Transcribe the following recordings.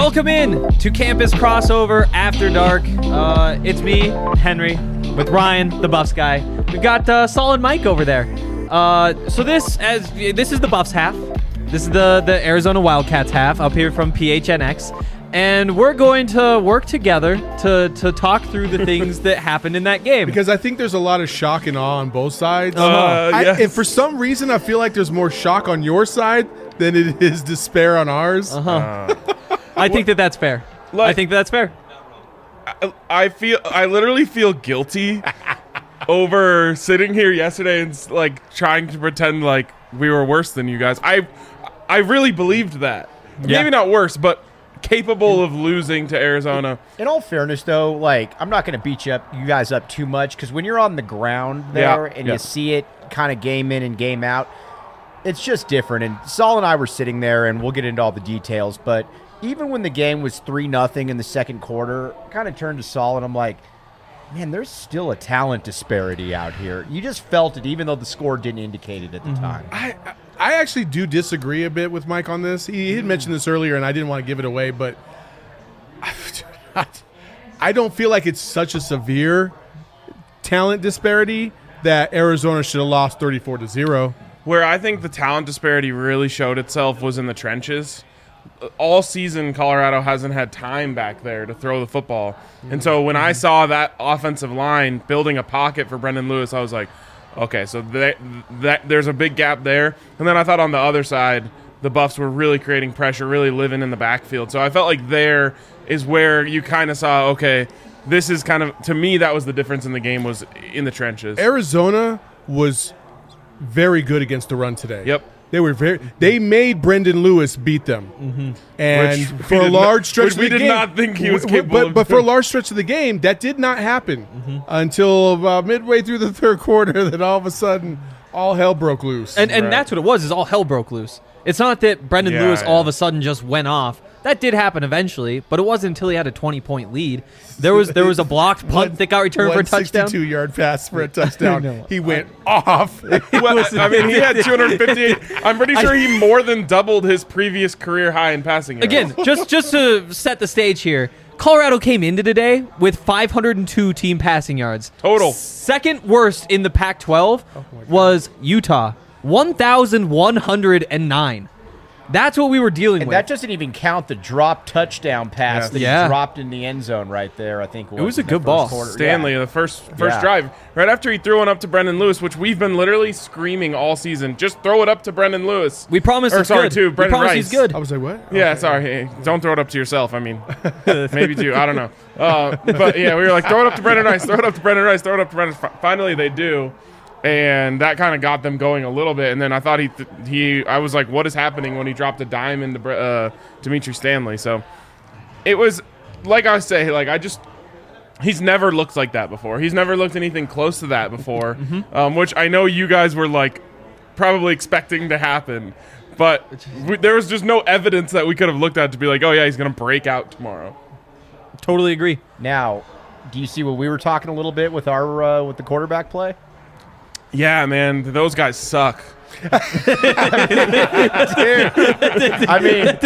Welcome in to Campus Crossover After Dark. It's me, Henry, with Ryan, the Buffs guy. We've got Solid Mike over there. So this is the Buffs half. This is the Arizona Wildcats half up here from PHNX. And we're going to work together to talk through the things that happened in that game. Because I think there's a lot of shock and awe on both sides. Yes. And for some reason, I feel like there's more shock on your side than it is despair on ours. I think that's fair. I think that's fair. I literally feel guilty over sitting here yesterday and like trying to pretend like we were worse than you guys. I really believed that. Yeah. Maybe not worse, but capable of losing to Arizona. In all fairness, though, like I'm not going to beat you guys up too much because when you're on the ground there and you see it kind of game in and game out, it's just different. And Saul and I were sitting there, and we'll get into all the details, but even when the game was 3-0 in the second quarter, I kind of turned to Saul and I'm like, man, there's still a talent disparity out here. You just felt it, even though the score didn't indicate it at the time. I actually do disagree a bit with Mike on this. He had mentioned this earlier, and I didn't want to give it away, but I don't feel like it's such a severe talent disparity that Arizona should have lost 34-0. Where I think the talent disparity really showed itself was in the trenches. All season, Colorado hasn't had time back there to throw the football. And so when I saw that offensive line building a pocket for Brendan Lewis, I was like, okay, so there's a big gap there. And then I thought on the other side, the Buffs were really creating pressure, really living in the backfield. So I felt like there is where you kind of saw, okay, this is kind of, to me, that was the difference in the game, was in the trenches. Arizona was very good against the run today. Yep. They made Brendan Lewis beat them, and Which for a large stretch of the game, we did not think he was capable of but for a doing. large stretch of the game, that did not happen until about midway through the third quarter. That all of a sudden, all hell broke loose. And that's what it was, is all hell broke loose. It's not that Brendan Lewis all of a sudden just went off. That did happen eventually, but it wasn't until he had a 20-point lead. There was a blocked punt that got returned for a touchdown. 62-yard pass for a touchdown. He went off. Well, I mean, he had 258. I'm pretty sure he more than doubled his previous career high in passing yards. Again, just to set the stage here, Colorado came into today with 502 team passing yards. Total. Second worst in the Pac-12 was Utah, 1,109. That's what we were dealing And with. that doesn't even count the drop touchdown pass that he dropped in the end zone right there, I think. It was a in the good first ball. quarter. Stanley, Yeah. the first drive, right after he threw one up to Brendan Lewis, which we've been literally screaming all season, just throw it up to Brendan Lewis. We promised he's good. to We Brendan promised Rice. he's good. I was like, what? Yeah, Okay. sorry. Hey, don't throw it up to yourself. I mean, maybe to you. I don't know. But yeah, we were like, throw it up to Brendan Rice, throw it up to Brendan Rice, throw it up to Brendan. Finally, they do. And that kind of got them going a little bit. And then I thought I was like, what is happening when he dropped a dime into Dimitri Stanley? So it was, like I say, he's never looked like that before. He's never looked anything close to that before, which I know you guys were like probably expecting to happen. But there was just no evidence that we could have looked at to be like, oh, yeah, he's going to break out tomorrow. Totally agree. Now, do you see what we were talking a little bit with our with the quarterback play? Yeah, man, those guys suck. I mean,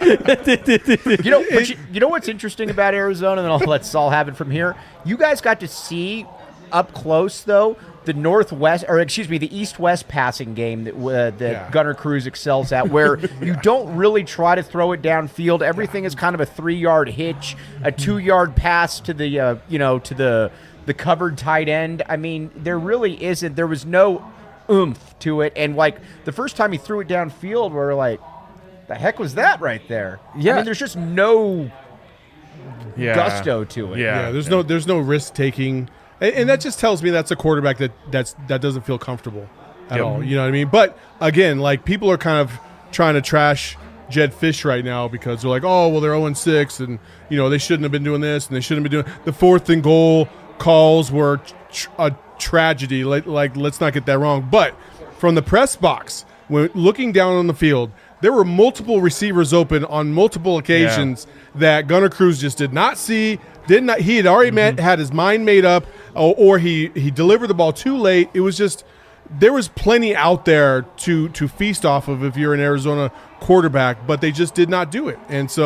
you know what's interesting about Arizona, and I'll let Saul have it from here. You guys got to see up close, though, the east-west passing game that Gunnar Cruz excels at, where you don't really try to throw it downfield. Everything is kind of a 3-yard hitch, a 2-yard pass to the the covered tight end. I mean, there really isn't. There was no oomph to it. And, like, the first time he threw it downfield, we're like, the heck was that right there? Yeah. I mean, there's just no gusto to it. Yeah, there's no risk taking. And that just tells me that's a quarterback that doesn't feel comfortable at all. You know what I mean? But, again, like, people are kind of trying to trash Jed Fish right now because they're like, oh, well, they're 0-6, and, you know, they shouldn't have been doing this, and they shouldn't have been doing – the 4th and goal calls were a tragedy. Like, let's not get that wrong. But from the press box, when looking down on the field, there were multiple receivers open on multiple occasions that Gunnar Cruz just did not see. He had already had his mind made up, or he delivered the ball too late. It was just there was plenty out there to feast off of if you're an Arizona quarterback, but they just did not do it. And so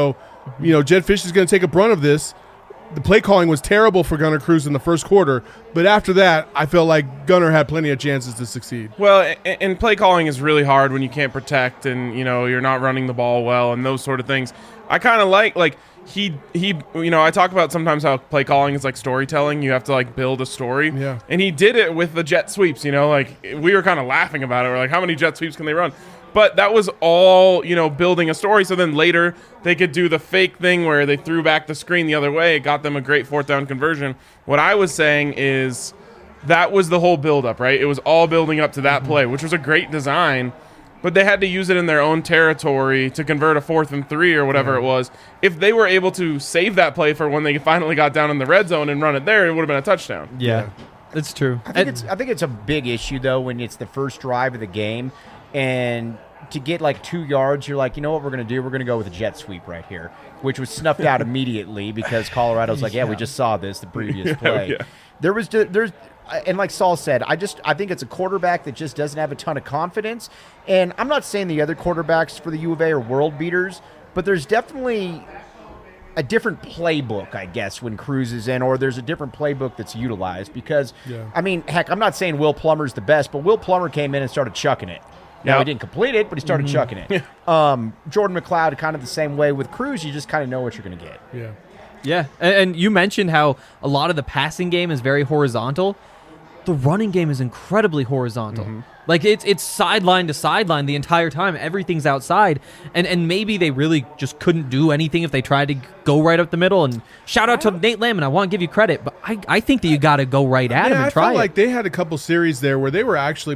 Jedd Fisch is going to take a brunt of this. The play calling was terrible for Gunnar Cruz in the first quarter, but after that, I felt like Gunnar had plenty of chances to succeed. Well, and play calling is really hard when you can't protect and, you're not running the ball well and those sort of things. I kind of like he I talk about sometimes how play calling is like storytelling. You have to like build a story. Yeah. And he did it with the jet sweeps, like we were kind of laughing about it. We're like, how many jet sweeps can they run? But that was all, building a story. So then later they could do the fake thing where they threw back the screen the other way. It got them a great 4th down conversion. What I was saying is that was the whole buildup, right? It was all building up to that play, which was a great design. But they had to use it in their own territory to convert a 4th and 3 or whatever it was. If they were able to save that play for when they finally got down in the red zone and run it there, it would have been a touchdown. Yeah, that's true. I think it's a big issue, though, when it's the first drive of the game. And to get like 2 yards, you're like, you know what we're going to do? We're going to go with a jet sweep right here, which was snuffed out immediately because Colorado's like, we just saw this the previous play. There's and like Saul said, I think it's a quarterback that just doesn't have a ton of confidence. And I'm not saying the other quarterbacks for the U of A are world beaters, but there's definitely a different playbook, I guess, when Cruz is in, or there's a different playbook that's utilized because, I mean, heck, I'm not saying Will Plummer's the best, but Will Plummer came in and started chucking it. Now, he didn't complete it, but he started chucking it. Jordan McLeod, kind of the same way with Cruz. You just kind of know what you're going to get. Yeah, and you mentioned how a lot of the passing game is very horizontal. The running game is incredibly horizontal. Like, it's sideline to sideline the entire time. Everything's outside. And maybe they really just couldn't do anything if they tried to go right up the middle. And shout out to Nate Lamb, and I want to give you credit, but I think that you got to go right at him and try it. I felt like they had a couple series there where they were actually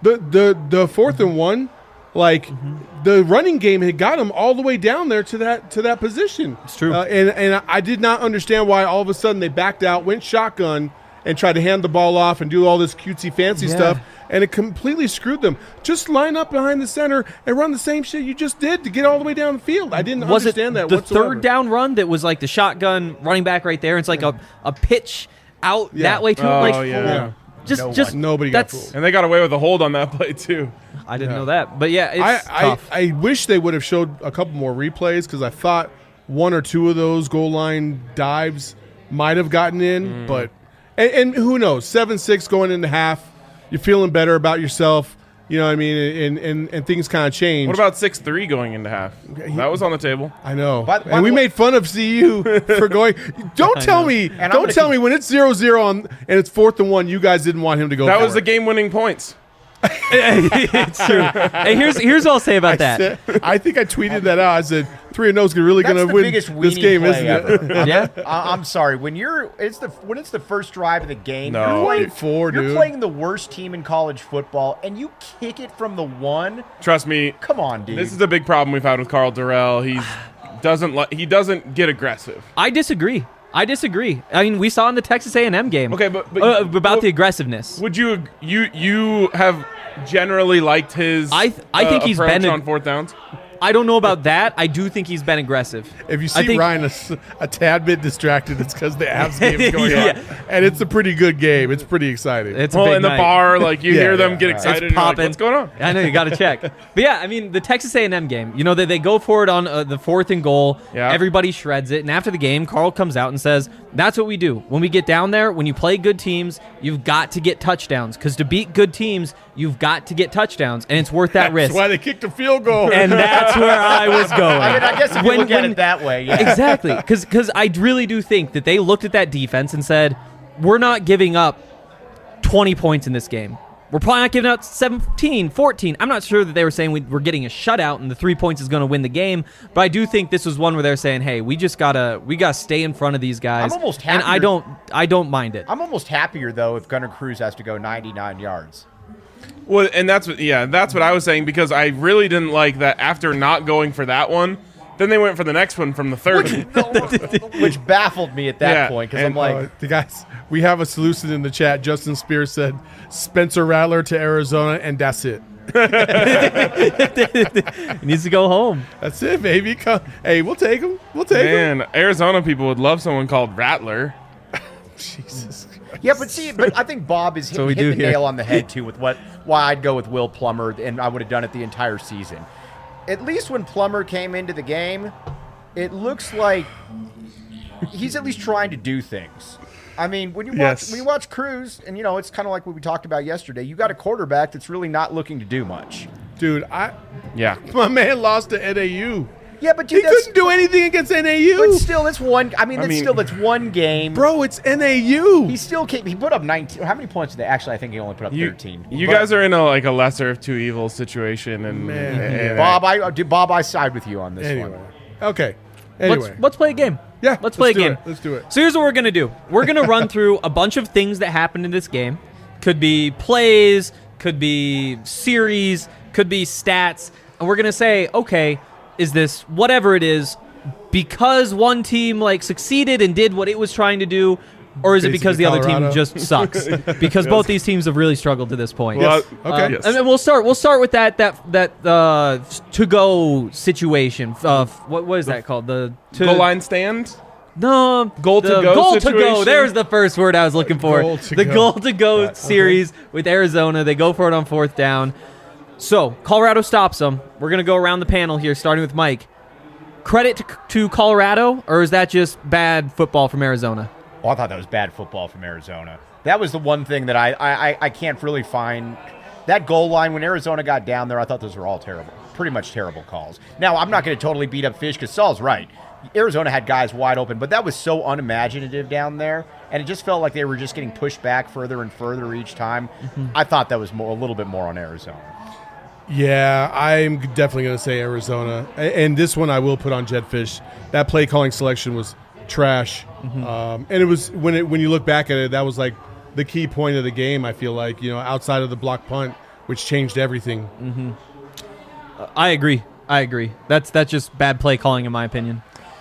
the 4th and 1. Like the running game had got him all the way down there to that position. It's true. And I did not understand why all of a sudden they backed out, went shotgun, and tried to hand the ball off and do all this cutesy fancy stuff, and it completely screwed them. Just line up behind the center and run the same shit you just did to get all the way down the field. I didn't understand that whatsoever. The 3rd down run that was like the shotgun running back right there. It's like a pitch out that way to Just nobody got fooled. And they got away with a hold on that play too. I didn't know that. But yeah, it's tough. I wish they would have showed a couple more replays because I thought 1 or 2 of those goal line dives might have gotten in, but and who knows? 7-6 going into half, you're feeling better about yourself. You know what I mean? And things kind of change. What about 6-3 going into half? That was on the table. I know. And we made fun of CU for going. Don't tell me when it's 0-0 and it's 4th and 1, you guys didn't want him to go. That was the game-winning points. It's true. Hey, here's what I'll say about that. I think I tweeted that out. I said 3-0 is really going to win this game, isn't it? Yeah. I'm sorry. When it's the first drive of the game, you're playing the worst team in college football, and you kick it from the 1. Trust me. Come on, dude. This is a big problem we've had with Carl Durrell. He doesn't get aggressive. I disagree. I mean, we saw in the Texas A&M game. Okay, but about the aggressiveness. Would you have generally liked his? I think he's been on 4th downs. I don't know about that. I do think he's been aggressive. If you see Ryan a tad bit distracted, it's because the Avs game is going on. And it's a pretty good game. It's pretty exciting. It's a big in the night. bar, like you hear them get excited. It's popping. Like, what's going on? I know, you got to check. But yeah, I mean, the Texas A&M game, they go for it on the 4th and goal. Yeah. Everybody shreds it. And after the game, Carl comes out and says, that's what we do. When we get down there, when you play good teams, you've got to get touchdowns. Because to beat good teams, you've got to get touchdowns. And it's worth that risk. That's why they kicked a field goal. And that's where I was going. I mean, I guess if you look at it that way, yeah. Exactly. Because I really do think that they looked at that defense and said, we're not giving up 20 points in this game. We're probably not giving out 17, 14. I'm not sure that they were saying we're getting a shutout and the 3 points is going to win the game. But I do think this was one where they're saying, hey, we gotta stay in front of these guys. I'm almost happier. And I don't mind it. I'm almost happier, though, if Gunnar Cruz has to go 99 yards. Well, and that's what I was saying, because I really didn't like that after not going for that one. Then they went for the next one from the 30. Which baffled me at that point, because I'm like... the guys, we have a solution in the chat. Justin Spears said, Spencer Rattler to Arizona, and that's it. He needs to go home. That's it, baby. Hey, we'll take him. Man, Arizona people would love someone called Rattler. Jesus Christ. Yeah, but I think Bob is hit the nail on the head, too, with why I'd go with Will Plummer, and I would have done it the entire season. At least when Plummer came into the game, it looks like he's at least trying to do things. I mean, when you watch Cruz, and it's kind of like what we talked about yesterday. You got a quarterback that's really not looking to do much. Dude, my man lost to NAU. Yeah, but dude, he couldn't do anything against NAU. But still, that's one. That's one game, bro. It's NAU. He still can't. He put up 19. How many points did they? Actually, I think he only put up 13. You guys are in a lesser of two evils situation, and Bob, I side with you on this one. Okay. Anyway, let's play a game. Yeah, let's play a game. Let's do it. So here's what we're gonna do. We're gonna run through a bunch of things that happened in this game. Could be plays, could be series, could be stats, and we're gonna say, okay, is this whatever it is because one team succeeded and did what it was trying to do, or is it because the other team just sucks? Because both these teams have really struggled to this point. Yes. Okay. And then we'll start with that to go situation. What is that called? The goal line stand. No, goal to go. There's the first word I was looking for. Goal to go series with Arizona. They go for it on 4th down. So Colorado stops them. We're gonna go around the panel here, starting with Mike. Credit to Colorado, or is that just bad football from Arizona? Oh, I thought that was bad football from Arizona. That was the one thing that I can't really find. That goal line, when Arizona got down there, I thought those were all terrible. Pretty much terrible calls. Now, I'm not going to totally beat up Fish because Saul's right. Arizona had guys wide open, but that was so unimaginative down there, and it just felt like they were just getting pushed back further and further each time. Mm-hmm. I thought that was a little bit more on Arizona. Yeah, I'm definitely going to say Arizona. And this one I will put on Jedd Fisch. That play calling selection was trash. Mm-hmm. And it was when you look back at it, that was like the key point of the game, I feel like, outside of the block punt, which changed everything. Mm-hmm. I agree. That's just bad play calling in my opinion.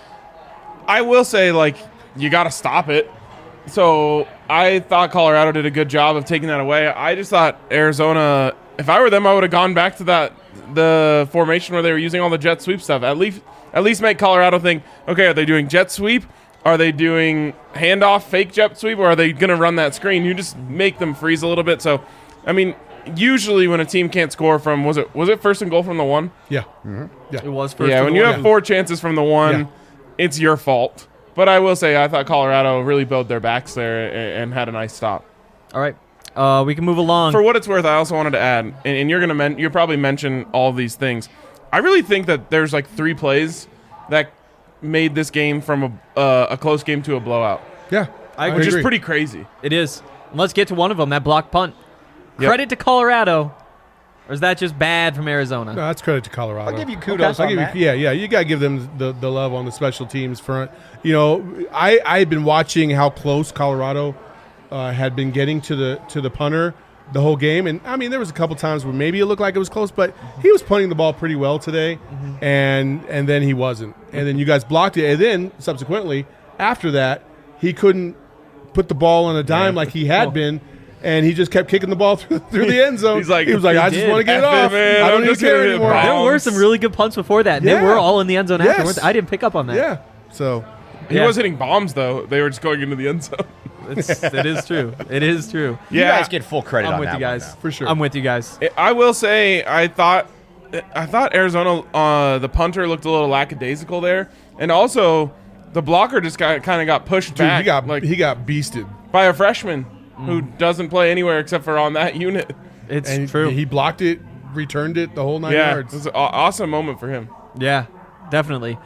I will say, you got to stop it. So I thought Colorado did a good job of taking that away. I just thought Arizona, if I were them, I would have gone back to the formation where they were using all the jet sweep stuff. At least make Colorado think, okay, are they doing jet sweep? Are they doing handoff, fake jet sweep, or are they going to run that screen? You just make them freeze a little bit. So, usually when a team can't score from, was it first and goal from the 1? Yeah. Mm-hmm. Yeah. It was first. Yeah, when you have 4 chances from the 1, it's your fault. But I will say I thought Colorado really built their backs there and had a nice stop. All right. We can move along. For what it's worth, I also wanted to add, and you'll probably mention all these things. I really think that there's 3 plays that made this game from a close game to a blowout. Yeah, which is pretty crazy. It is. Let's get to one of them, that block punt. Yep. Credit to Colorado, or is that just bad from Arizona? No, that's credit to Colorado. I'll give you kudos on that. You got to give them the love on the special teams front. I've been watching how close Colorado had been getting to the punter the whole game. And, there was a couple times where maybe it looked like it was close, but he was punting the ball pretty well today, and then he wasn't. And then you guys blocked it. And then, subsequently, after that, he couldn't put the ball on a dime like he had been, and he just kept kicking the ball through the end zone. He was like, I just want to get it off. Man, I don't even care anymore. There were some really good punts before that, and they were all in the end zone afterwards. I didn't pick up on that. Yeah, so... He was hitting bombs, though. They were just going into the end zone. It is true. It is true. You guys get full credit on that. I'm with you guys. For sure. I'm with you guys. I will say, I thought Arizona, the punter looked a little lackadaisical there. And also, the blocker just kind of got pushed back. He got beasted. By a freshman who doesn't play anywhere except for on that unit. It's true. He blocked it, returned it the whole 9 yards. It was an awesome moment for him. Yeah, definitely.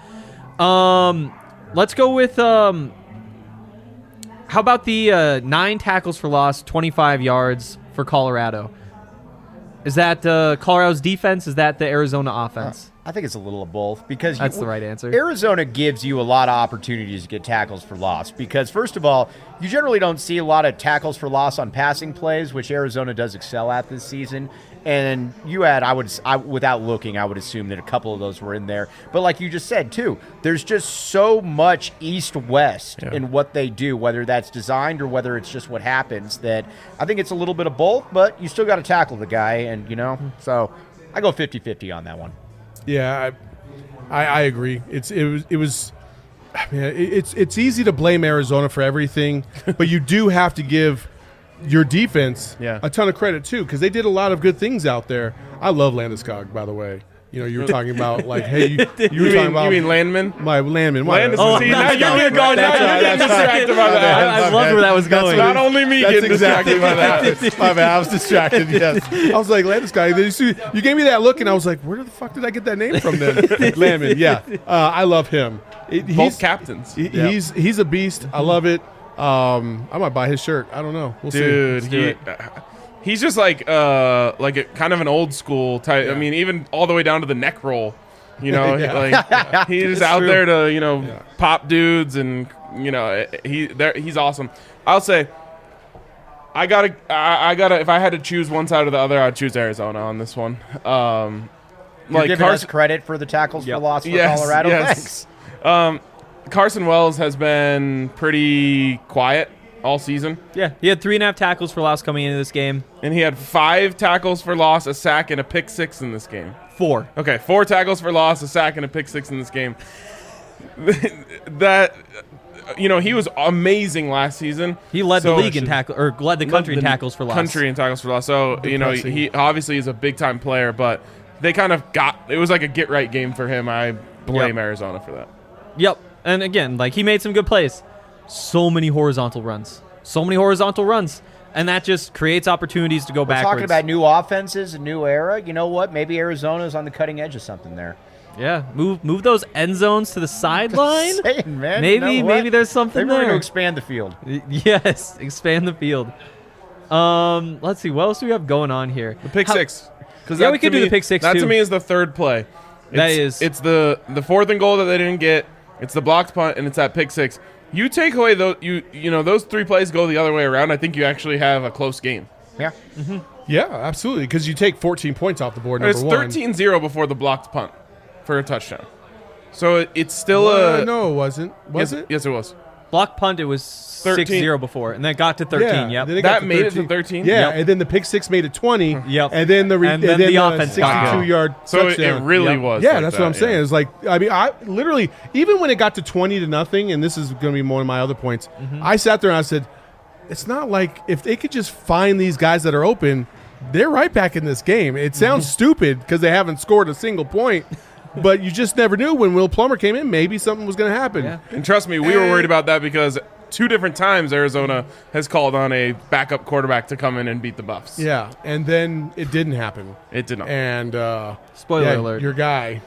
Let's go with how about the 9 tackles for loss, 25 yards for Colorado? Is that Colorado's defense? Is that the Arizona offense? I think it's a little of both because that's the right answer. Arizona gives you a lot of opportunities to get tackles for loss because, first of all, you generally don't see a lot of tackles for loss on passing plays, which Arizona does excel at this season. And you had, without looking, I would assume that a couple of those were in there. But like you just said, too, there's just so much east-west in what they do, whether that's designed or whether it's just what happens, that I think it's a little bit of both, but you still got to tackle the guy. And, so I go 50-50 on that one. Yeah, I agree. It's easy to blame Arizona for everything, but you do have to give your defense a ton of credit too, because they did a lot of good things out there. I love Landeskog, by the way. You know, you were talking about like, hey, you were talking about you mean Landman? my Landman. Landman. Oh, See, that's now you're right. going. Now you're getting distracted by that. I loved where that was going. Not only me That's getting exactly distracted by what that. My bad. I was distracted. Yes, I was like, Landis guy. You gave me that look, and I was like, where the fuck did I get that name from? Then Landman. Yeah, I love him. Both captains. He's a beast. I love it. I might buy his shirt. I don't know. We'll Dude, see. he's just like a kind of an old school type. I mean, even all the way down to the neck roll. You know, like he's out there to pop dudes, and he's awesome. I'll say, I gotta. If I had to choose one side or the other, I'd choose Arizona on this one. You're giving us credit for the tackles for loss for Colorado. Yes. Thanks. Carson Wells has been pretty quiet all season. Yeah, he had 3.5 tackles for loss coming into this game. And he had 5 tackles for loss, a sack, and a pick 6 in this game. 4. Okay, 4 tackles for loss, a sack, and a pick 6 in this game. That, he was amazing last season. He led the league in tackle, or led the country in tackles for loss. Country in tackles for loss. So, Depressing. he obviously is a big-time player, but they kind of it was like a get-right game for him. I blame Arizona for that. Yep. And again, like, he made some good plays. So many horizontal runs. And that just creates opportunities to go backwards. Talking about new offenses, a new era. You know what? Maybe Arizona's on the cutting edge of something there. Yeah, move those end zones to the sideline. Saying, man, Maybe there's something Maybe we're there. going to expand the field. Yes, expand the field. Let's see, what else do we have going on here? The pick 6. Yeah, we could do the pick 6 That too. to me is the third play. It's the 4th and goal that they didn't get. It's the blocked punt, and it's that pick 6. You take away those, those 3 plays go the other way around. I think you actually have a close game. Yeah. Mm-hmm. Yeah, absolutely. Because you take 14 points off the board. It's Number one. 13-0 before the blocked punt for a touchdown. So it's still no, it wasn't. Was yes, it? Yes, it was. Block punt, it was 6-0 before, and then it got to 13. Yeah, Yep. then it got That to made it to 13? Yeah, Yep. and then the pick 6 made it 20. Yep. And then the offense got 62-yard So touchdown. it really was. Yeah, like that's that, what I'm saying. It's like, I mean, I literally, even when it got to 20-0, and this is going to be one of my other points, I sat there and I said, it's not like if they could just find these guys that are open, they're right back in this game. It sounds stupid because they haven't scored a single point, but you just never knew when Will Plummer came in, maybe something was going to happen. Yeah. And trust me, we were worried about that because 2 different times Arizona has called on a backup quarterback to come in and beat the Buffs. Yeah, and then it didn't happen. It did not. And Spoiler alert. Your guy.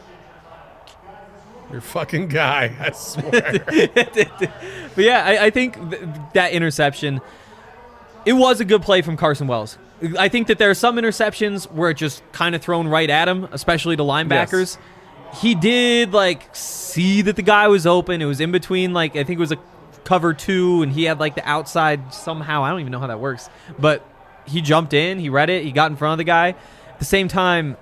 Your fucking guy, I swear. But yeah, I think that interception, it was a good play from Carson Wells. I think that there are some interceptions where it just kind of thrown right at him, especially to linebackers. Yes. He did, see that the guy was open. It was in between, I think it was a cover 2, and he had, the outside somehow. I don't even know how that works. But he jumped in, he read it, he got in front of the guy. At the same time,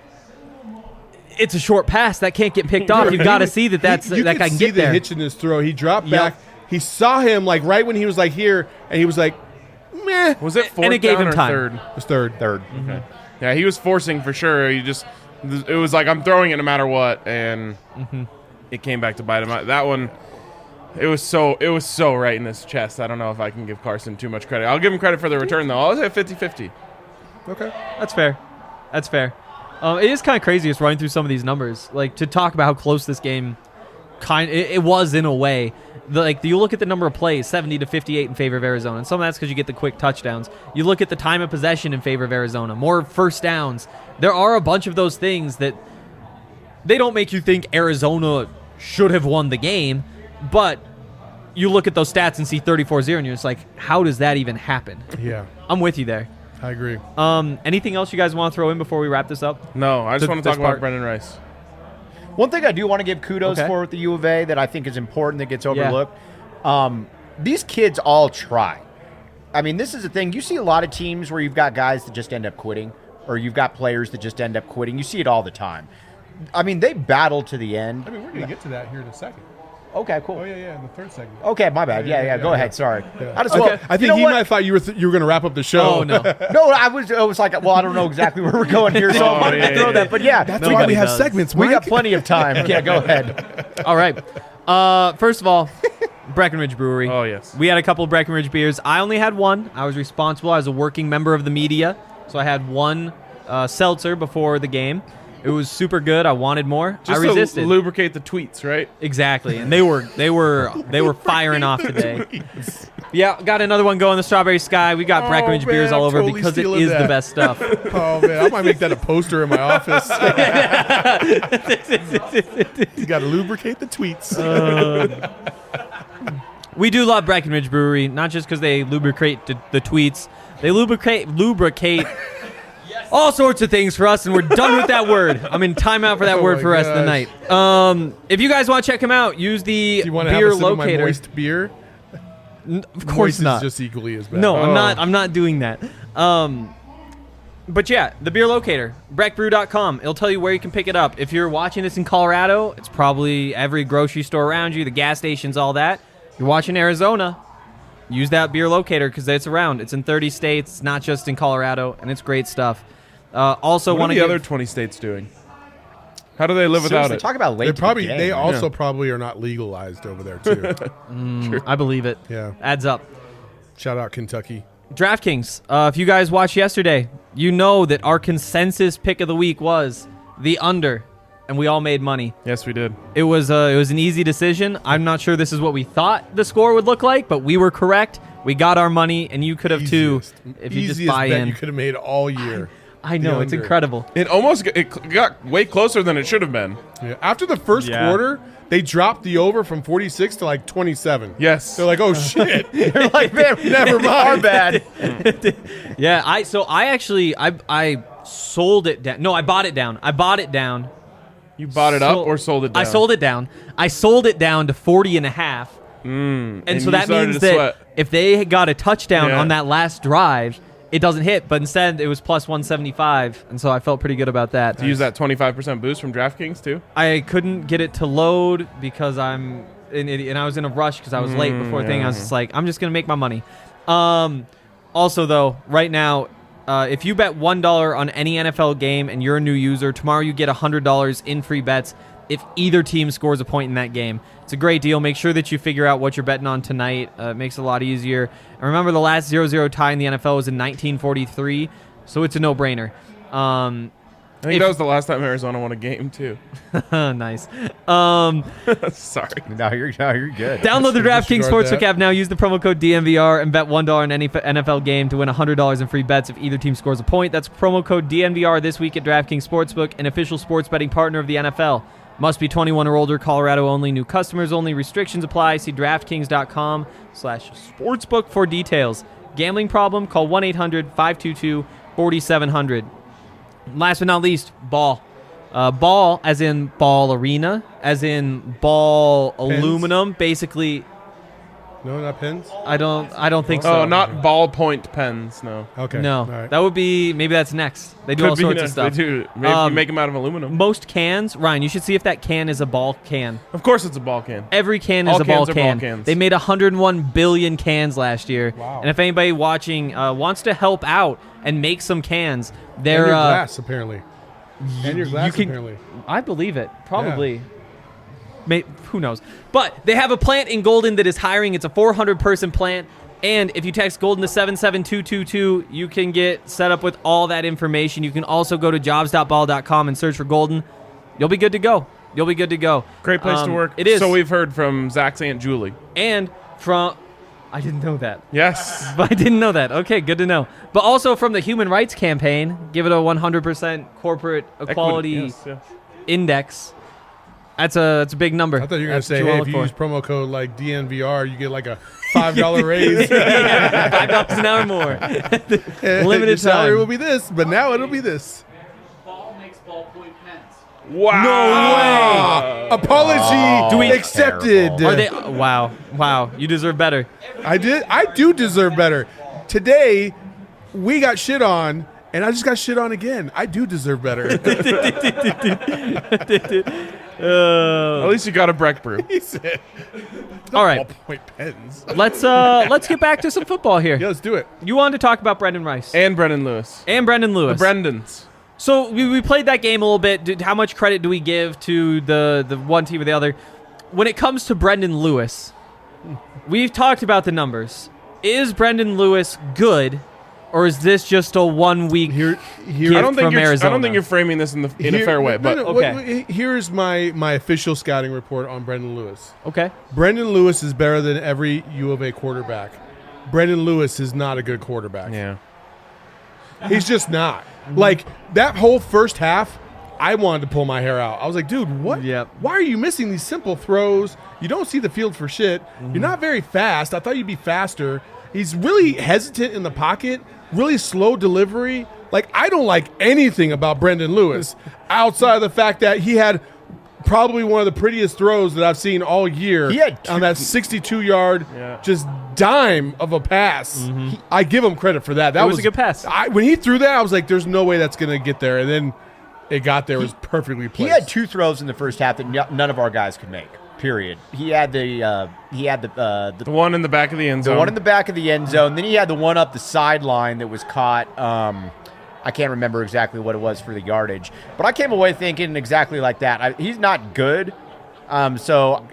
it's a short pass that can't get picked off. You've got to see that that guy can get the there. hitch in his throw. He dropped back. He saw him right when he was here, and he was like, meh. Was it 4th And it gave down him or time. 3rd? It was third. Okay. Yeah, he was forcing for sure. It was like, I'm throwing it no matter what, and it came back to bite him. That one, it was so right in his chest. I don't know if I can give Carson too much credit. I'll give him credit for the return, though. I'll say 50-50. Okay. That's fair. It is kind of crazy just running through some of these numbers, to talk about how close this game it was in a way. You look at the number of plays, 70-58 in favor of Arizona, and some of that's because you get the quick touchdowns. You look at the time of possession in favor of Arizona, more first downs. There are a bunch of those things that they don't make you think Arizona should have won the game, but you look at those stats and see 34-0, and you're just like, how does that even happen? Yeah, I'm with you there. I agree. Anything else you guys want to throw in before we wrap this up? No, I just want to talk part. about Brendan Rice. One thing I do want to give kudos Okay. for with the U of A that I think is important that gets overlooked. These kids all try. I mean, this is the thing. You see a lot of teams where you've got guys that just end up quitting, or you've got players that just end up quitting. You see it all the time. I mean, they battle to the end. I mean, we're going to get to that here in a second. Okay, cool. Oh, yeah, in the third segment. Okay, my bad. Yeah, go ahead. Sorry. I just I think he might have thought you were going to wrap up the show. Oh, no. No, I was like, well, I don't know exactly where we're going here, so I wanted to throw that. But yeah, That's why we have does. segments, we Mike. got plenty of time. Yeah, go ahead. All right. First of all, Breckenridge Brewery. Oh, yes. We had a couple of Breckenridge beers. I only had one. I was responsible as a working member of the media, so I had one seltzer before the game. It was super good. I wanted more. Just I resisted. to lubricate the tweets, right? Exactly, and they were firing off today. Yeah, got another one going. The Strawberry Sky. We got Breckenridge man, beers all I'm over totally because it stealing is the that. best stuff. Oh man, I might make that a poster in my office. You got to lubricate the tweets. We do love Breckenridge Brewery, not just because they lubricate the tweets. They lubricate all sorts of things for us, and we're done with that word. I'm in timeout for that Oh word my for the rest of the night. If you guys want to check them out, use the Do you want to beer have a sip of my locator. moist beer? Of course Moist not. is just equally as bad. No, Oh. I'm not doing that. But yeah, the beer locator, breckbrew.com. It'll tell you where you can pick it up. If you're watching this in Colorado, it's probably every grocery store around you, the gas stations, all that. If you're watching Arizona, use that beer locator because it's around. It's in 30 states. It's not just in Colorado, and it's great stuff. Also, What want are to the other 20 states doing? How do they live without Seriously, it? talk about late. They also probably are not legalized over there too. I believe it. Yeah. Adds up. Shout out Kentucky. DraftKings. If you guys watched yesterday, you know that our consensus pick of the week was the under, and we all made money. Yes, we did. It was an easy decision. I'm not sure this is what we thought the score would look like, but we were correct. We got our money, and you could have too if you just Easiest buy bet in. you could have made all year. I know, The it's under. incredible. It got way closer than it should have been. Yeah. After the first Yeah. quarter, they dropped the over from 46 to like 27. Yes. They're like, oh shit. They're like, man, Never mind. Our bad. Yeah, I sold it down. No, I bought it down. I bought it down. You bought it up or sold it down? I sold it down. I sold it down to 40 and a half. And so you that started means to that sweat. if they got a touchdown Yeah. on that last drive, it doesn't hit. But instead, it was plus 175, and so I felt pretty good about that. To use that 25% boost from DraftKings too? I couldn't get it to load because and I was in a rush because I was late before the thing. I was just like, I'm just gonna make my money. Also, though, right now, if you bet $1 on any NFL game and you're a new user, tomorrow you get $100 in free bets if either team scores a point in that game. It's a great deal. Make sure that you figure out what you're betting on tonight. It makes it a lot easier. And remember, the last 0-0 tie in the NFL was in 1943, so it's a no-brainer. I think that was the last time Arizona won a game too. Nice. Sorry. No, you're good. Download the DraftKings disregard Sportsbook that. app now. Use the promo code DNVR and bet $1 on any NFL game to win $100 in free bets if either team scores a point. That's promo code DNVR this week at DraftKings Sportsbook, an official sports betting partner of the NFL. Must be 21 or older, Colorado only, new customers only, restrictions apply. See DraftKings.com/sportsbook for details. Gambling problem? Call 1-800-522-4700. Last but not least, ball. Ball as in ball arena, as in ball aluminum. Basically, No, not pens? I don't think so. Oh, not ballpoint pens. No. Okay. No, All right. that would be, maybe that's next. They do Could all be sorts of next. stuff. They do. Maybe you make them out of aluminum. Most cans, Ryan, you should see if that can is a ball can. Of course, it's a ball can. Every can All is a ball cans are ball can. cans. They made 101 billion cans last year. Wow. And if anybody watching wants to help out and make some cans, And they're your glass, apparently. And your glass, can- apparently. I believe it. Probably. Who knows? But they have a plant in Golden that is hiring. It's a 400-person plant. And if you text Golden to 77222, you can get set up with all that information. You can also go to jobs.ball.com and search for Golden. You'll be good to go. You'll be good to go. Great place to work. It is. So we've heard from Zach's Aunt Julie. And from... I didn't know that. Yes. But I didn't know that. Okay, good to know. But also from the Human Rights Campaign, give it a 100% corporate equality Yes, yes. index. That's a big number. I thought you were going to That's say, what hey, you if you wanna use look promo code like DNVR, you get like a $5 raise. for. $5 an hour more. Limited Your salary time. will be this, but now it'll be this. Ball makes ballpoint pens. Wow. No Apology Do we- accepted. Are they? Wow. You deserve better. I do deserve better. Today, we got shit on, and I just got shit on again. I do deserve better. At least you got a Breck brew. He said, All right, ballpoint pens. let's get back to some football here. Yeah, let's do it. You wanted to talk about Brendan Rice And Brendan Lewis. and Brendan Lewis. The Brendans. So we played that game a little bit. How much credit do we give to the one team or the other? When it comes to Brendan Lewis, we've talked about the numbers. Is Brendan Lewis good? Or is this just a 1 week Here, gift I don't think from I Arizona? don't think you're framing this in a fair way. But okay. Here's my official scouting report on Brendan Lewis. Okay. Brendan Lewis is better than every U of A quarterback. Brendan Lewis is not a good quarterback. yeah, He's just not. Like, that whole first half, I wanted to pull my hair out. I was like, dude, what? Yep. Why are you missing these simple throws? You don't see the field for shit. You're not very fast. I thought you'd be faster. He's really hesitant in the pocket, really slow delivery. Like, I don't like anything about Brendan Lewis outside of the fact that he had probably one of the prettiest throws that I've seen all year He had on that 62-yard Yeah. just dime of a pass. I give him credit for that. That was a good pass. When he threw that, I was like, there's no way that's going to get there. And then it got there. It was perfectly placed. He had 2 throws in the first half that none of our guys could make. Period. He had the the one in the back of the end zone. one in the back of the end zone. Then he had the one up the sideline that was caught. I can't remember exactly what it was for the yardage, but I came away thinking exactly like that. He's not good, so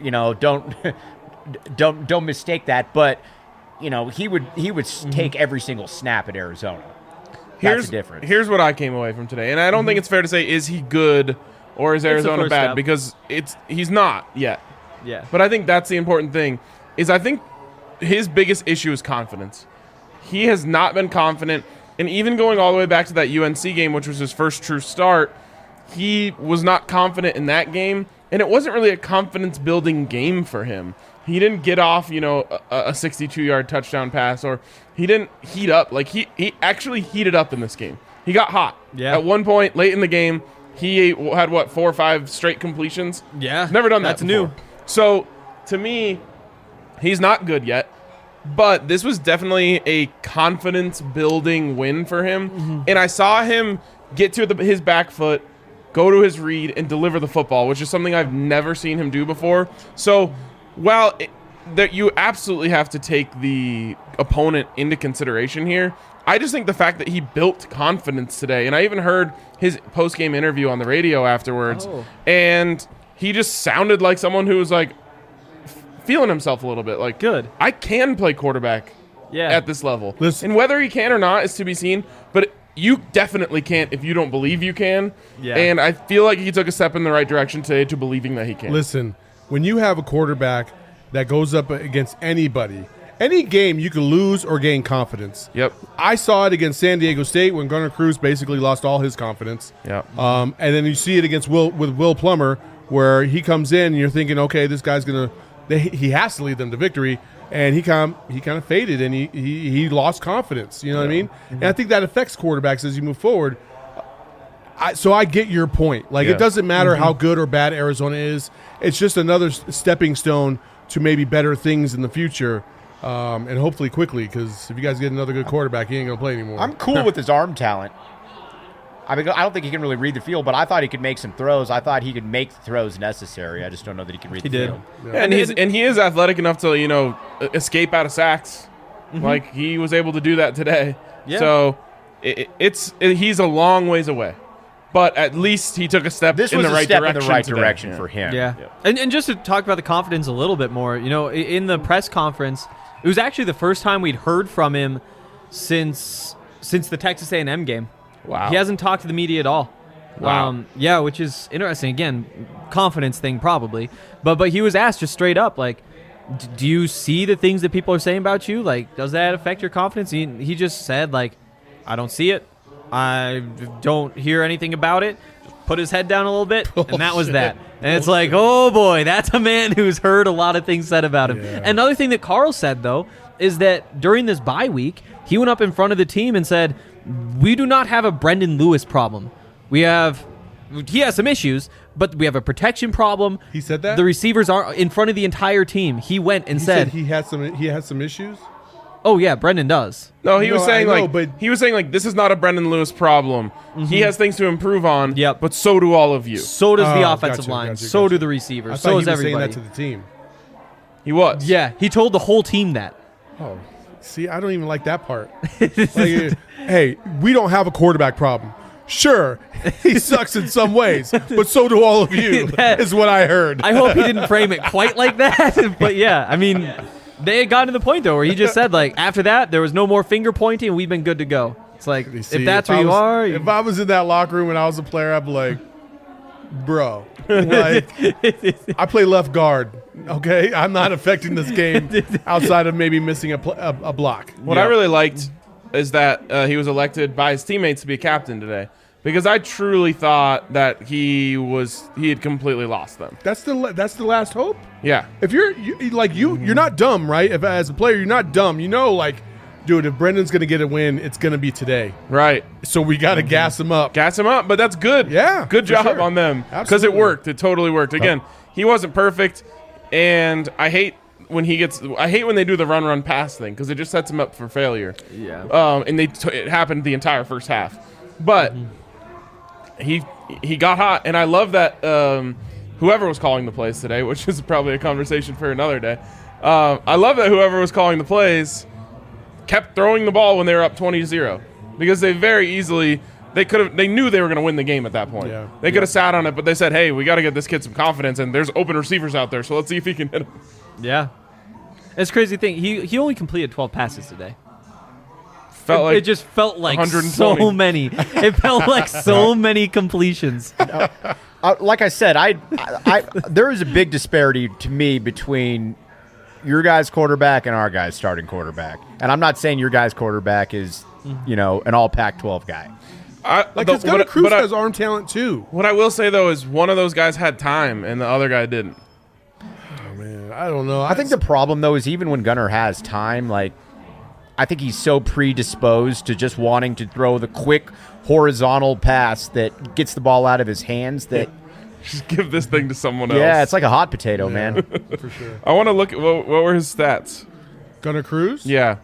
don't mistake that. But he would take every single snap at Arizona. That's the difference. Here's what I came away from today, and I don't think it's fair to say is he good or is Arizona first bad step. because he's not yet. Yeah. But I think that's the important thing. Is I think his biggest issue is confidence. He has not been confident, and even going all the way back to that UNC game, which was his first true start, he was not confident in that game, and it wasn't really a confidence-building game for him. He didn't get off, a 62-yard touchdown pass, or he didn't heat up. Like, he actually heated up in this game. He got hot. Yeah. At one point, late in the game, he had, 4 or 5 straight completions? Yeah. Never done that That's before. new. So, to me, he's not good yet, but this was definitely a confidence-building win for him. And I saw him get to his back foot, go to his read, and deliver the football, which is something I've never seen him do before. So, while that you absolutely have to take the opponent into consideration here, I just think the fact that he built confidence today, and I even heard his post-game interview on the radio afterwards, and he just sounded like someone who was like feeling himself a little bit. Like, Good. I can play quarterback Yeah. at this level. Listen- And whether he can or not is to be seen, but you definitely can't if you don't believe you can. Yeah. And I feel like he took a step in the right direction today to believing that he can. Listen, when you have a quarterback that goes up against anybody, any game you can lose or gain confidence. Yep. I saw it against San Diego State when Gunnar Cruz basically lost all his confidence. Yep. And then you see it against Will Plummer, where he comes in and you're thinking, okay, this guy's he has to lead them to victory, and he kind of faded and he lost confidence. You know what I mean? And I think that affects quarterbacks as you move forward. So I get your point. Like, Yeah. it doesn't matter how good or bad Arizona is. It's just another stepping stone to maybe better things in the future, and hopefully quickly, because if you guys get another good quarterback, he ain't going to play anymore. I'm cool with his arm talent. I mean, I don't think he can really read the field, but I thought he could make some throws. I thought he could make the throws necessary. I just don't know that he can read the did. field. Yeah, and he is athletic enough to escape out of sacks. Like, he was able to do that today. Yeah. So he's a long ways away, but at least he took a step This in was the a right step direction. in the right today. direction Yeah. for him. Yeah. And just to talk about the confidence a little bit more, in the press conference, it was actually the first time we'd heard from him since the Texas A&M game. Wow. He hasn't talked to the media at all. Wow. Yeah, which is interesting. Again, confidence thing probably. But he was asked just straight up, like, do you see the things that people are saying about you? Like, does that affect your confidence? He just said, like, I don't see it. I don't hear anything about it. Put his head down a little bit, and that was that. And it's like, oh boy, that's a man who's heard a lot of things said about him. Yeah. Another thing that Carl said, though, is that during this bye week, he went up in front of the team and said, we do not have a Brendan Lewis problem. He has some issues, but we have a protection problem. He said that? The receivers are in front of the entire team. He went and He said, he had some issues. oh yeah, Brendan does. No, he was No, saying I know, like but- he was saying like this is not a Brendan Lewis problem. He has things to improve on. Yep. But so do all of you. So does the Oh, offensive gotcha, line. gotcha, so gotcha. do the I receivers. thought So he is was saying everybody. that to the team. He was. Yeah, he told the whole team that. Oh, see, I don't even like that part. Like, hey, we don't have a quarterback problem. Sure, he sucks in some ways, but so do all of you, That- is what I heard. I hope he didn't frame it quite like that. But yeah, I mean, They had gotten to the point, though, where he just said, like, after that, there was no more finger pointing, and we've been good to go. It's like, See, if that's where you are. If I was in that locker room and I was a player, I'd be like, bro, like, I play left guard, okay? I'm not affecting this game outside of maybe missing a block. What I really liked is that he was elected by his teammates to be a captain today, because I truly thought that he had completely lost them. That's the last hope. Yeah. If you're not dumb, right? If as a player you're not dumb, you know, like, dude, if Brendan's gonna get a win, it's gonna be today. Right. So we got to gas him up. Gas him up, but that's good. Yeah, good for job sure. on them, because it Absolutely. worked. It totally worked. Again, he wasn't perfect, and I hate when they do the run pass thing, because it just sets him up for failure. Yeah. And it happened the entire first half, but he got hot, and I love that whoever was calling the plays today, which is probably a conversation for another day. I love that whoever was calling the plays kept throwing the ball when they were up 20-0, because they very easily they knew they were going to win the game at that point. Yeah. They could have sat on it, but they said, "Hey, we got to get this kid some confidence, and there's open receivers out there, so let's see if he can hit them." Yeah. It's a crazy thing. He only completed 12 passes today. Felt It just felt like 120. so many. It felt like so many completions. Like I said, there is a big disparity to me between your guy's quarterback and our guy's starting quarterback. And I'm not saying your guy's quarterback is, an all Pac-12 guy. Because Gunnar Cruz has arm talent too. What I will say, though, is one of those guys had time, and the other guy didn't. Oh, man, I don't know. I think the problem, though, is even when Gunnar has time, like, I think he's so predisposed to just wanting to throw the quick horizontal pass that gets the ball out of his hands that Just give this thing to someone else. yeah, it's like a hot potato, man. for sure. I want to look at what were his stats. Gunnar Cruz? Yeah.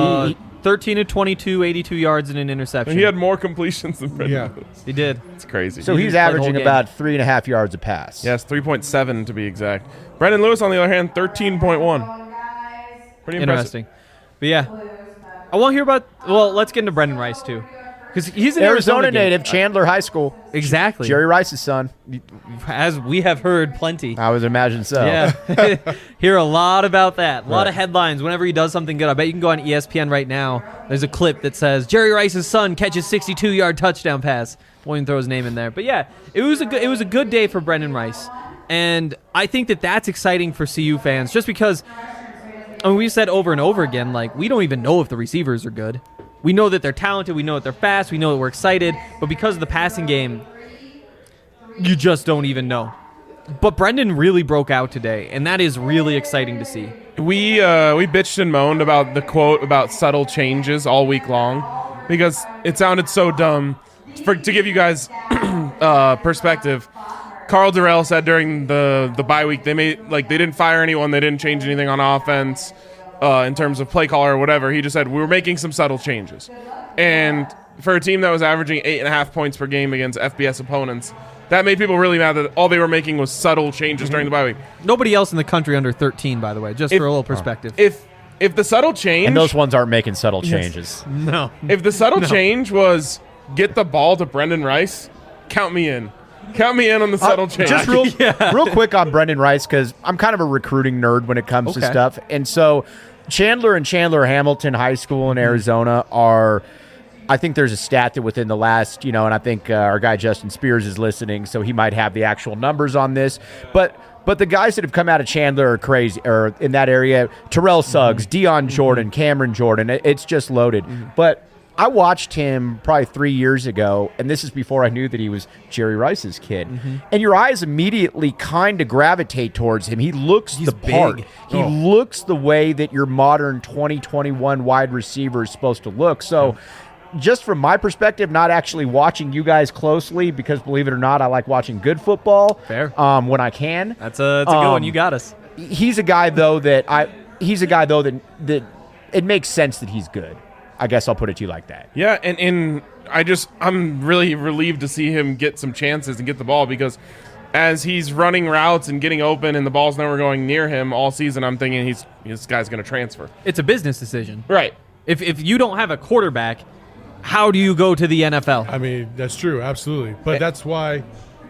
13 of 22, 82 yards and an interception. He had more completions than Brendan Yeah. Lewis. He did. It's crazy. So he's played the whole averaging game. about 3.5 yards a pass. Yes, 3.7 to be exact. Brendan Lewis, on the other hand, 13.1. Pretty impressive. Interesting. But yeah. I want to hear about, let's get into Brendan Rice too. Because he's an Arizona game. native, Chandler High School. Exactly. Jerry Rice's son. As we have heard plenty. I would imagine so. Yeah. Hear a lot about that. A lot of headlines whenever he does something good. I bet you can go on ESPN right now. There's a clip that says Jerry Rice's son catches 62-yard touchdown pass. Won't even throw his name in there. But yeah, it was a good day for Brendan Rice. And I think that's exciting for CU fans just because we've said over and over again, like, we don't even know if the receivers are good. We know that they're talented. We know that they're fast. We know that we're excited. But because of the passing game, you just don't even know. But Brendan really broke out today, and that is really exciting to see. We bitched and moaned about the quote about subtle changes all week long because it sounded so dumb. To give you guys perspective, Carl Durrell said during the bye week they didn't fire anyone, they didn't change anything on offense. In terms of play caller or whatever, he just said, we were making some subtle changes. And for a team that was averaging 8.5 points per game against FBS opponents, that made people really mad that all they were making was subtle changes during the bye week. Nobody else in the country under 13, by the way, just for a little perspective. If the subtle change... And those ones aren't making subtle changes. No. If the subtle change was get the ball to Brendan Rice, count me in. Count me in on the subtle change. Just real quick on Brendan Rice, because I'm kind of a recruiting nerd when it comes to stuff. And so Chandler and Chandler Hamilton High School in Arizona are, I think there's a stat that within the last, and I think our guy Justin Spears is listening, so he might have the actual numbers on this. But the guys that have come out of Chandler are crazy, or in that area, Terrell Suggs, Deion Jordan, Cameron Jordan, it's just loaded. But I watched him probably 3 years ago, and this is before I knew that he was Jerry Rice's kid. And your eyes immediately kind of gravitate towards him. He looks the part. big. He looks the way that your modern 2021 wide receiver is supposed to look. So just from my perspective, not actually watching you guys closely, because believe it or not, I like watching good football. Fair. When I can. That's a good one. You got us. He's a guy though that it makes sense that he's good. I guess I'll put it to you like that. Yeah, and I'm really relieved to see him get some chances and get the ball, because as he's running routes and getting open and the ball's never going near him all season, I'm thinking this guy's going to transfer. It's a business decision. Right. If you don't have a quarterback, how do you go to the NFL? I mean, that's true, absolutely. But that's why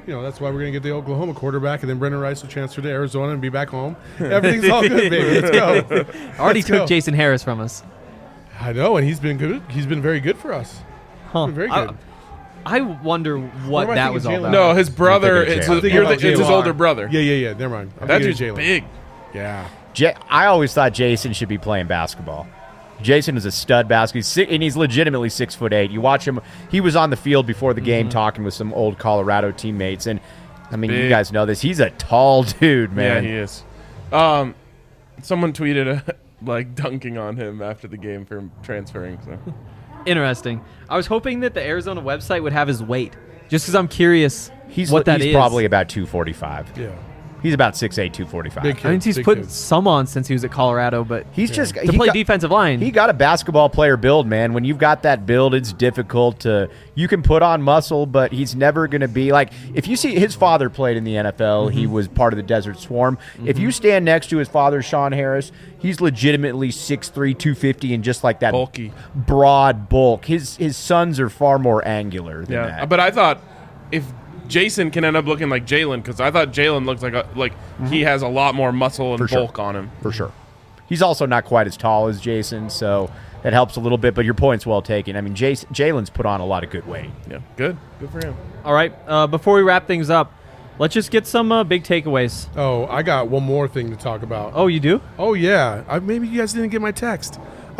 that's why we're going to get the Oklahoma quarterback, and then Brendan Rice will transfer to Arizona and be back home. Everything's all good, baby. Let's go. Already took Jason Harris from us. I know, and he's been good. He's been very good for us. Huh. Very good. I wonder what am I that thinking, was all Jalen? about. No, his brother. It's his older brother. Yeah. Never mind. I'm That thinking dude's of Jalen. big. Yeah. I always thought Jason should be playing basketball. Jason is a stud basketball, and he's legitimately 6'8". You watch him; he was on the field before the game talking with some old Colorado teammates, and I mean, you guys know this. He's a tall dude, man. Yeah, he is. Someone tweeted like dunking on him after the game for transferring. So Interesting. I was hoping that the Arizona website would have his weight, just because I'm curious what that is. He's probably about 245. Yeah. He's about 6'8", 245. Big kid. I mean, he's Big put kid. some on since he was at Colorado, but He's just to play defensive line. He got a basketball player build, man. When you've got that build, it's difficult to. You can put on muscle, but he's never going to be like. If you see his father played in the NFL, he was part of the Desert Swarm. If you stand next to his father, Sean Harris, he's legitimately 6'3", 250, and just like that bulky, broad bulk. His sons are far more angular than that. But I thought if Jason can end up looking like Jalen, because I thought Jalen looks like he has a lot more muscle and bulk on him. For sure. He's also not quite as tall as Jason, so that helps a little bit, but your point's well taken. I mean, Jalen's put on a lot of good weight. Yeah, good for him. All right, before we wrap things up, let's just get some big takeaways. Oh, I got one more thing to talk about. Oh, you do? Oh, yeah. Maybe you guys didn't get my text.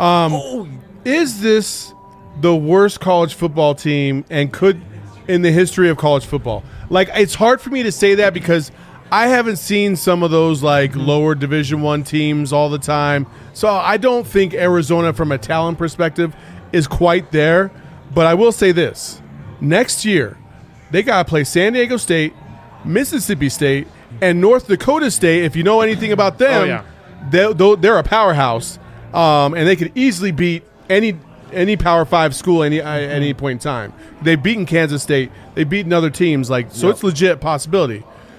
Is this the worst college football team in the history of college football? Like, it's hard for me to say that because I haven't seen some of those lower Division I teams all the time. So I don't think Arizona from a talent perspective is quite there. But I will say this. Next year, they got to play San Diego State, Mississippi State, and North Dakota State. If you know anything about them, they're a powerhouse. And they could easily beat any Power 5 school at any point in time. They've beaten Kansas State. They've beaten other teams. So it's legit possibility.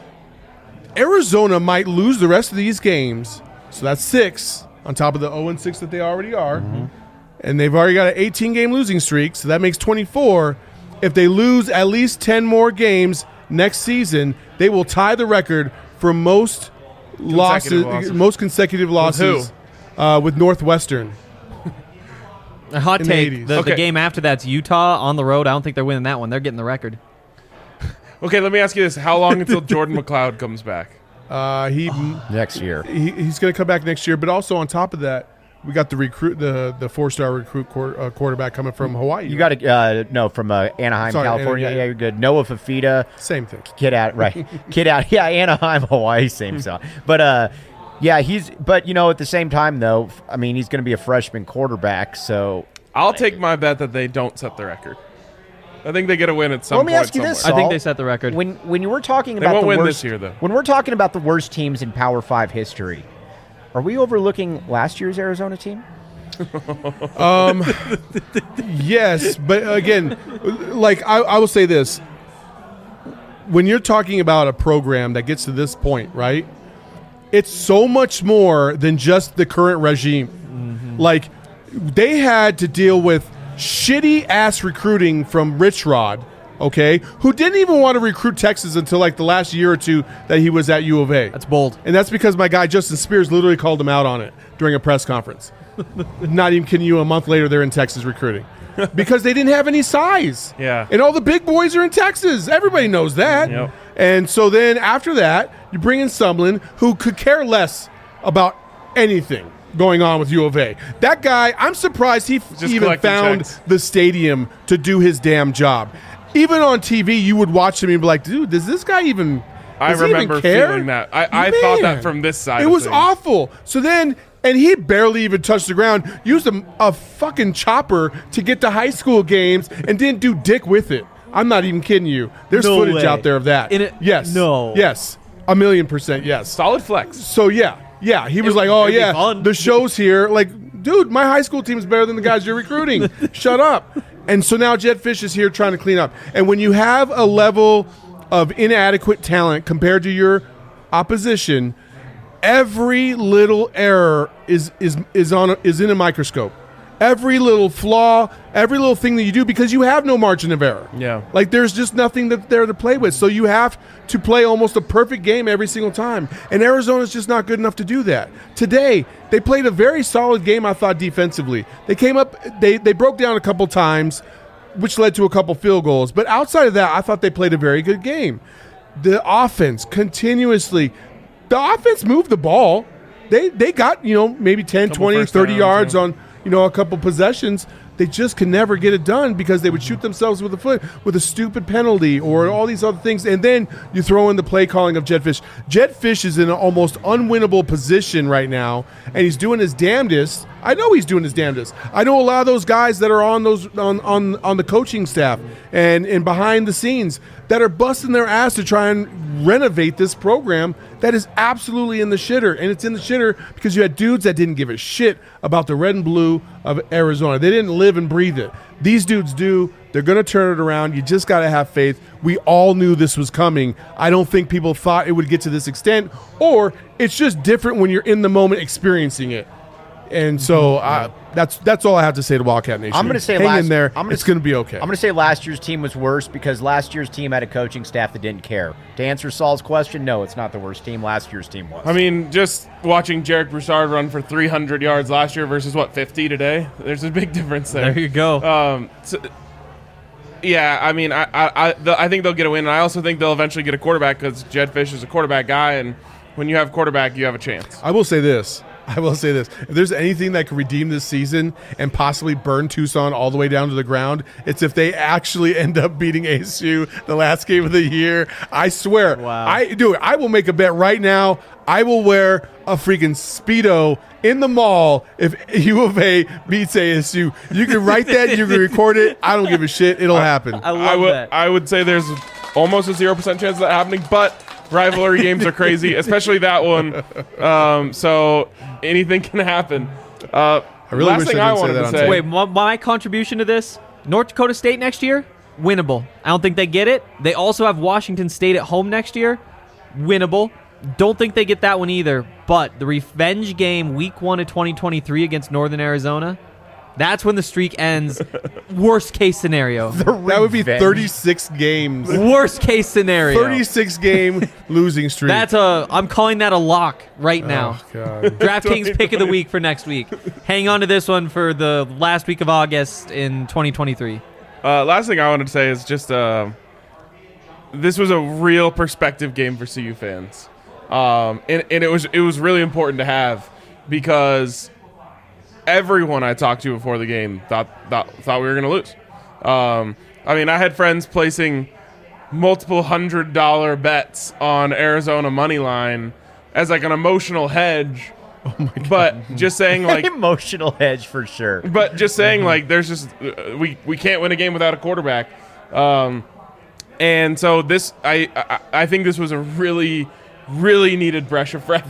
Arizona might lose the rest of these games. So that's 6 on top of the 0-6 that they already are. And they've already got an 18-game losing streak, so that makes 24. If they lose at least 10 more games next season, they will tie the record for most consecutive losses with Northwestern. A hot in the take. 80s. The game after that's Utah on the road. I don't think they're winning that one. They're getting the record. Okay, let me ask you this: how long until Jordan McLeod comes back? Next year. He's going to come back next year. But also on top of that, we got the 4-star recruit quarterback coming from Hawaii. You got to from Anaheim, California. Yeah, you're good. Noah Fafita. Same thing. Kid out. Yeah, Anaheim, Hawaii, same stuff. But yeah, but at the same time though, I mean, he's going to be a freshman quarterback, so I'll take my bet that they don't set the record. I think they get a win at some point. Let me ask you this, I think they set the record. When you were talking They about won't the win worst this year, though. When we're talking about the worst teams in Power 5 history, are we overlooking last year's Arizona team? Yes, but again, I will say this. When you're talking about a program that gets to this point, right, it's so much more than just the current regime. They had to deal with shitty-ass recruiting from Rich Rod, okay, who didn't even want to recruit Texas until the last year or two that he was at U of A. That's bold. And that's because my guy Justin Spears literally called him out on it during a press conference. Not even kidding you, a month later they're in Texas recruiting. Because they didn't have any size. Yeah. And all the big boys are in Texas. Everybody knows that. Yep. And so then after that, you bring in Sumlin, who could care less about anything going on with U of A. That guy, I'm surprised he even found the stadium to do his damn job. Even on TV, you would watch him and be like, dude, does this guy even I remember feeling that. I thought that from this side. It was awful. So then, and he barely even touched the ground, used a fucking chopper to get to high school games and didn't do dick with it. I'm not even kidding you. There's footage out there of that. Yes. No. Yes. 1,000,000% yes. Solid flex. So yeah, he was like, oh yeah, the show's here. Dude, my high school team's better than the guys you're recruiting. Shut up. And so now Jedd Fisch is here trying to clean up. And when you have a level of inadequate talent compared to your opposition, every little error is in a microscope. every little flaw, every little thing that you do, because you have no margin of error. Yeah. Like, there's just nothing there to play with. So you have to play almost a perfect game every single time. And Arizona's just not good enough to do that. Today, they played a very solid game, I thought, defensively. They came up, they broke down a couple times, which led to a couple field goals. But outside of that, I thought they played a very good game. The offense continuously, the offense moved the ball. They got, maybe 10, 20, 30 yards on, a couple possessions. They just can never get it done because they would shoot themselves with the foot with a stupid penalty or all these other things. And then you throw in the play calling of Jedd Fisch. Jedd Fisch is in an almost unwinnable position right now, and he's doing his damnedest. I know he's doing his damnedest. I know a lot of those guys that are on those on the coaching staff and behind the scenes that are busting their ass to try and renovate this program that is absolutely in the shitter. And it's in the shitter because you had dudes that didn't give a shit about the red and blue of Arizona. They didn't live and breathe it. These dudes do. They're going to turn it around. You just got to have faith. We all knew this was coming. I don't think people thought it would get to this extent, or it's just different when you're in the moment experiencing it. And so that's all I have to say to Wildcat Nation. I'm going to say hang in there. It's going to be okay. I'm going to say last year's team was worse because last year's team had a coaching staff that didn't care. To answer Saul's question, no, it's not the worst team. Last year's team was. I mean, just watching Jarek Broussard run for 300 yards last year versus 50 today. There's a big difference there. There you go. Yeah, I mean, I think they'll get a win, and I also think they'll eventually get a quarterback because Jedd Fisch is a quarterback guy, and when you have a quarterback, you have a chance. I will say this. If there's anything that could redeem this season and possibly burn Tucson all the way down to the ground, it's if they actually end up beating ASU the last game of the year. I swear. Wow. I will make a bet right now. I will wear a freaking Speedo in the mall if U of A beats ASU. You can write that. You can record it. I don't give a shit. It'll happen. I love that. I would say there's almost a 0% chance of that happening, but rivalry games are crazy, especially that one. So anything can happen. I really last wish thing I I didn't say wanted that to on say. tape. Wait, my contribution to this, North Dakota State next year, winnable. I don't think they get it. They also have Washington State at home next year, winnable. Don't think they get that one either. But the revenge game week 1 of 2023 against Northern Arizona, that's when the streak ends. Worst case scenario. That would be 36 games. Worst case scenario. 36 game losing streak. I'm calling that a lock right now. Oh, God. DraftKings pick of the week for next week. Hang on to this one for the last week of August in 2023. Last thing I wanted to say is just this was a real perspective game for CU fans. And it was really important to have because everyone I talked to before the game thought we were going to lose. I mean, I had friends placing multiple $100 bets on Arizona money line as like an emotional hedge. Oh my God. But just saying like emotional hedge for sure. But just saying like there's just we can't win a game without a quarterback. And so this I think this was a really needed breath of fresh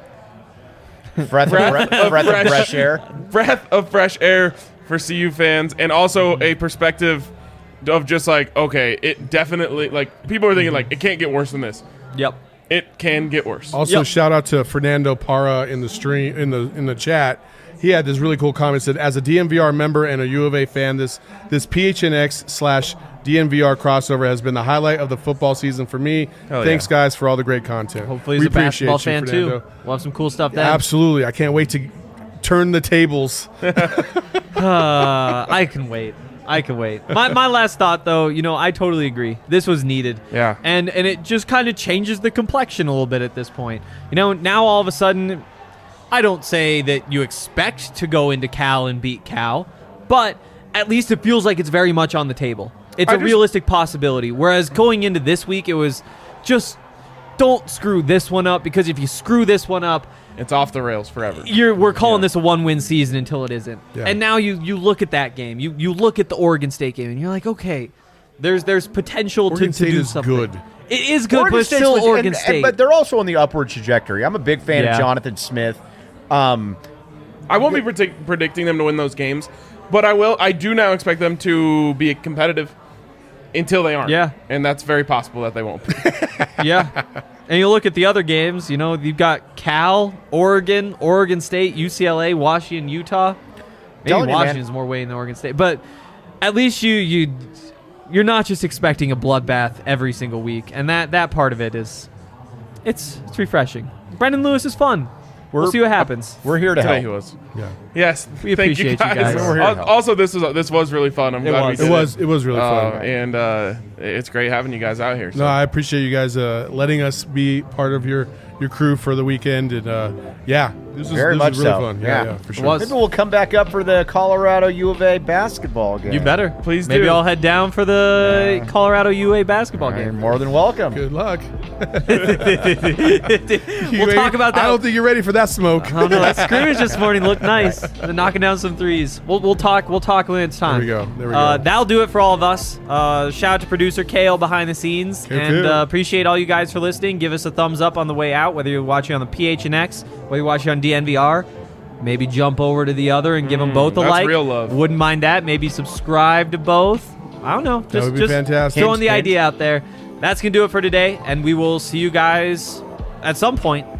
air. Breath of fresh air for CU fans, and also a perspective of just like, okay, it definitely, like, people are thinking like it can't get worse than this. Yep. It can get worse. Also, shout out to Fernando Parra in the stream in the chat. He had this really cool comment. Said, as a DNVR member and a U of A fan, this PHNX/DNVR crossover has been the highlight of the football season for me. Hell Thanks, yeah. guys, for all the great content. Hopefully he's we a basketball appreciate you, fan Fernando. too. We'll have some cool stuff then. Absolutely. I can't wait to turn the tables. I can wait. My last thought, though, I totally agree. This was needed. Yeah. And it just kind of changes the complexion a little bit at this point. Now all of a sudden, I don't say that you expect to go into Cal and beat Cal, but at least it feels like it's very much on the table. It's a realistic possibility. Whereas going into this week, it was just don't screw this one up, because if you screw this one up, it's off the rails forever. We're calling this a one-win season until it isn't. Yeah. And now you look at that game. You look at the Oregon State game, and you're like, okay, there's potential Oregon to State do is something. good. It is good, Oregon but it's State's still legit, Oregon State. but they're also on the upward trajectory. I'm a big fan Yeah. of Jonathan Smith. I won't be predicting them to win those games, but I do now expect them to be competitive until they aren't. Yeah. And that's very possible that they won't be. Yeah. And you look at the other games, you've got Cal, Oregon, Oregon State, UCLA, Washington, Utah. Maybe Telling you, man. Washington's more weighting than Oregon State, but at least you're not just expecting a bloodbath every single week, and that part of it is it's refreshing. Brendan Lewis is fun. We'll see what happens. We're here to Today help. he was. Yeah. Yes. We thank appreciate you guys. We're here to help. Also, this was really fun. I'm glad we did It was really fun. And it's great having you guys out here. So. No, I appreciate you guys letting us be part of your crew for the weekend, and this was Very much really so. fun. Yeah. Yeah, for sure. was. Maybe we'll come back up for the Colorado U of A basketball game. You better. Please Maybe do. I'll head down for the Colorado UA basketball You're game. more than welcome. Good luck. We'll talk about that. I don't think you're ready for that smoke. I don't know. That scrimmage this morning looked nice. They're knocking down some threes. We'll talk when it's time. There we go. That'll do it for all of us. Shout out to producer Kale behind the scenes, and appreciate all you guys for listening. Give us a thumbs up on the way out, whether you're watching on the PHNX, whether you're watching on DNVR. Maybe jump over to the other and give them both a that's like. real love. Wouldn't mind that. Maybe subscribe to both. I don't know. That would be fantastic. Throwing the Hint. idea out there. That's gonna do it for today, and we will see you guys at some point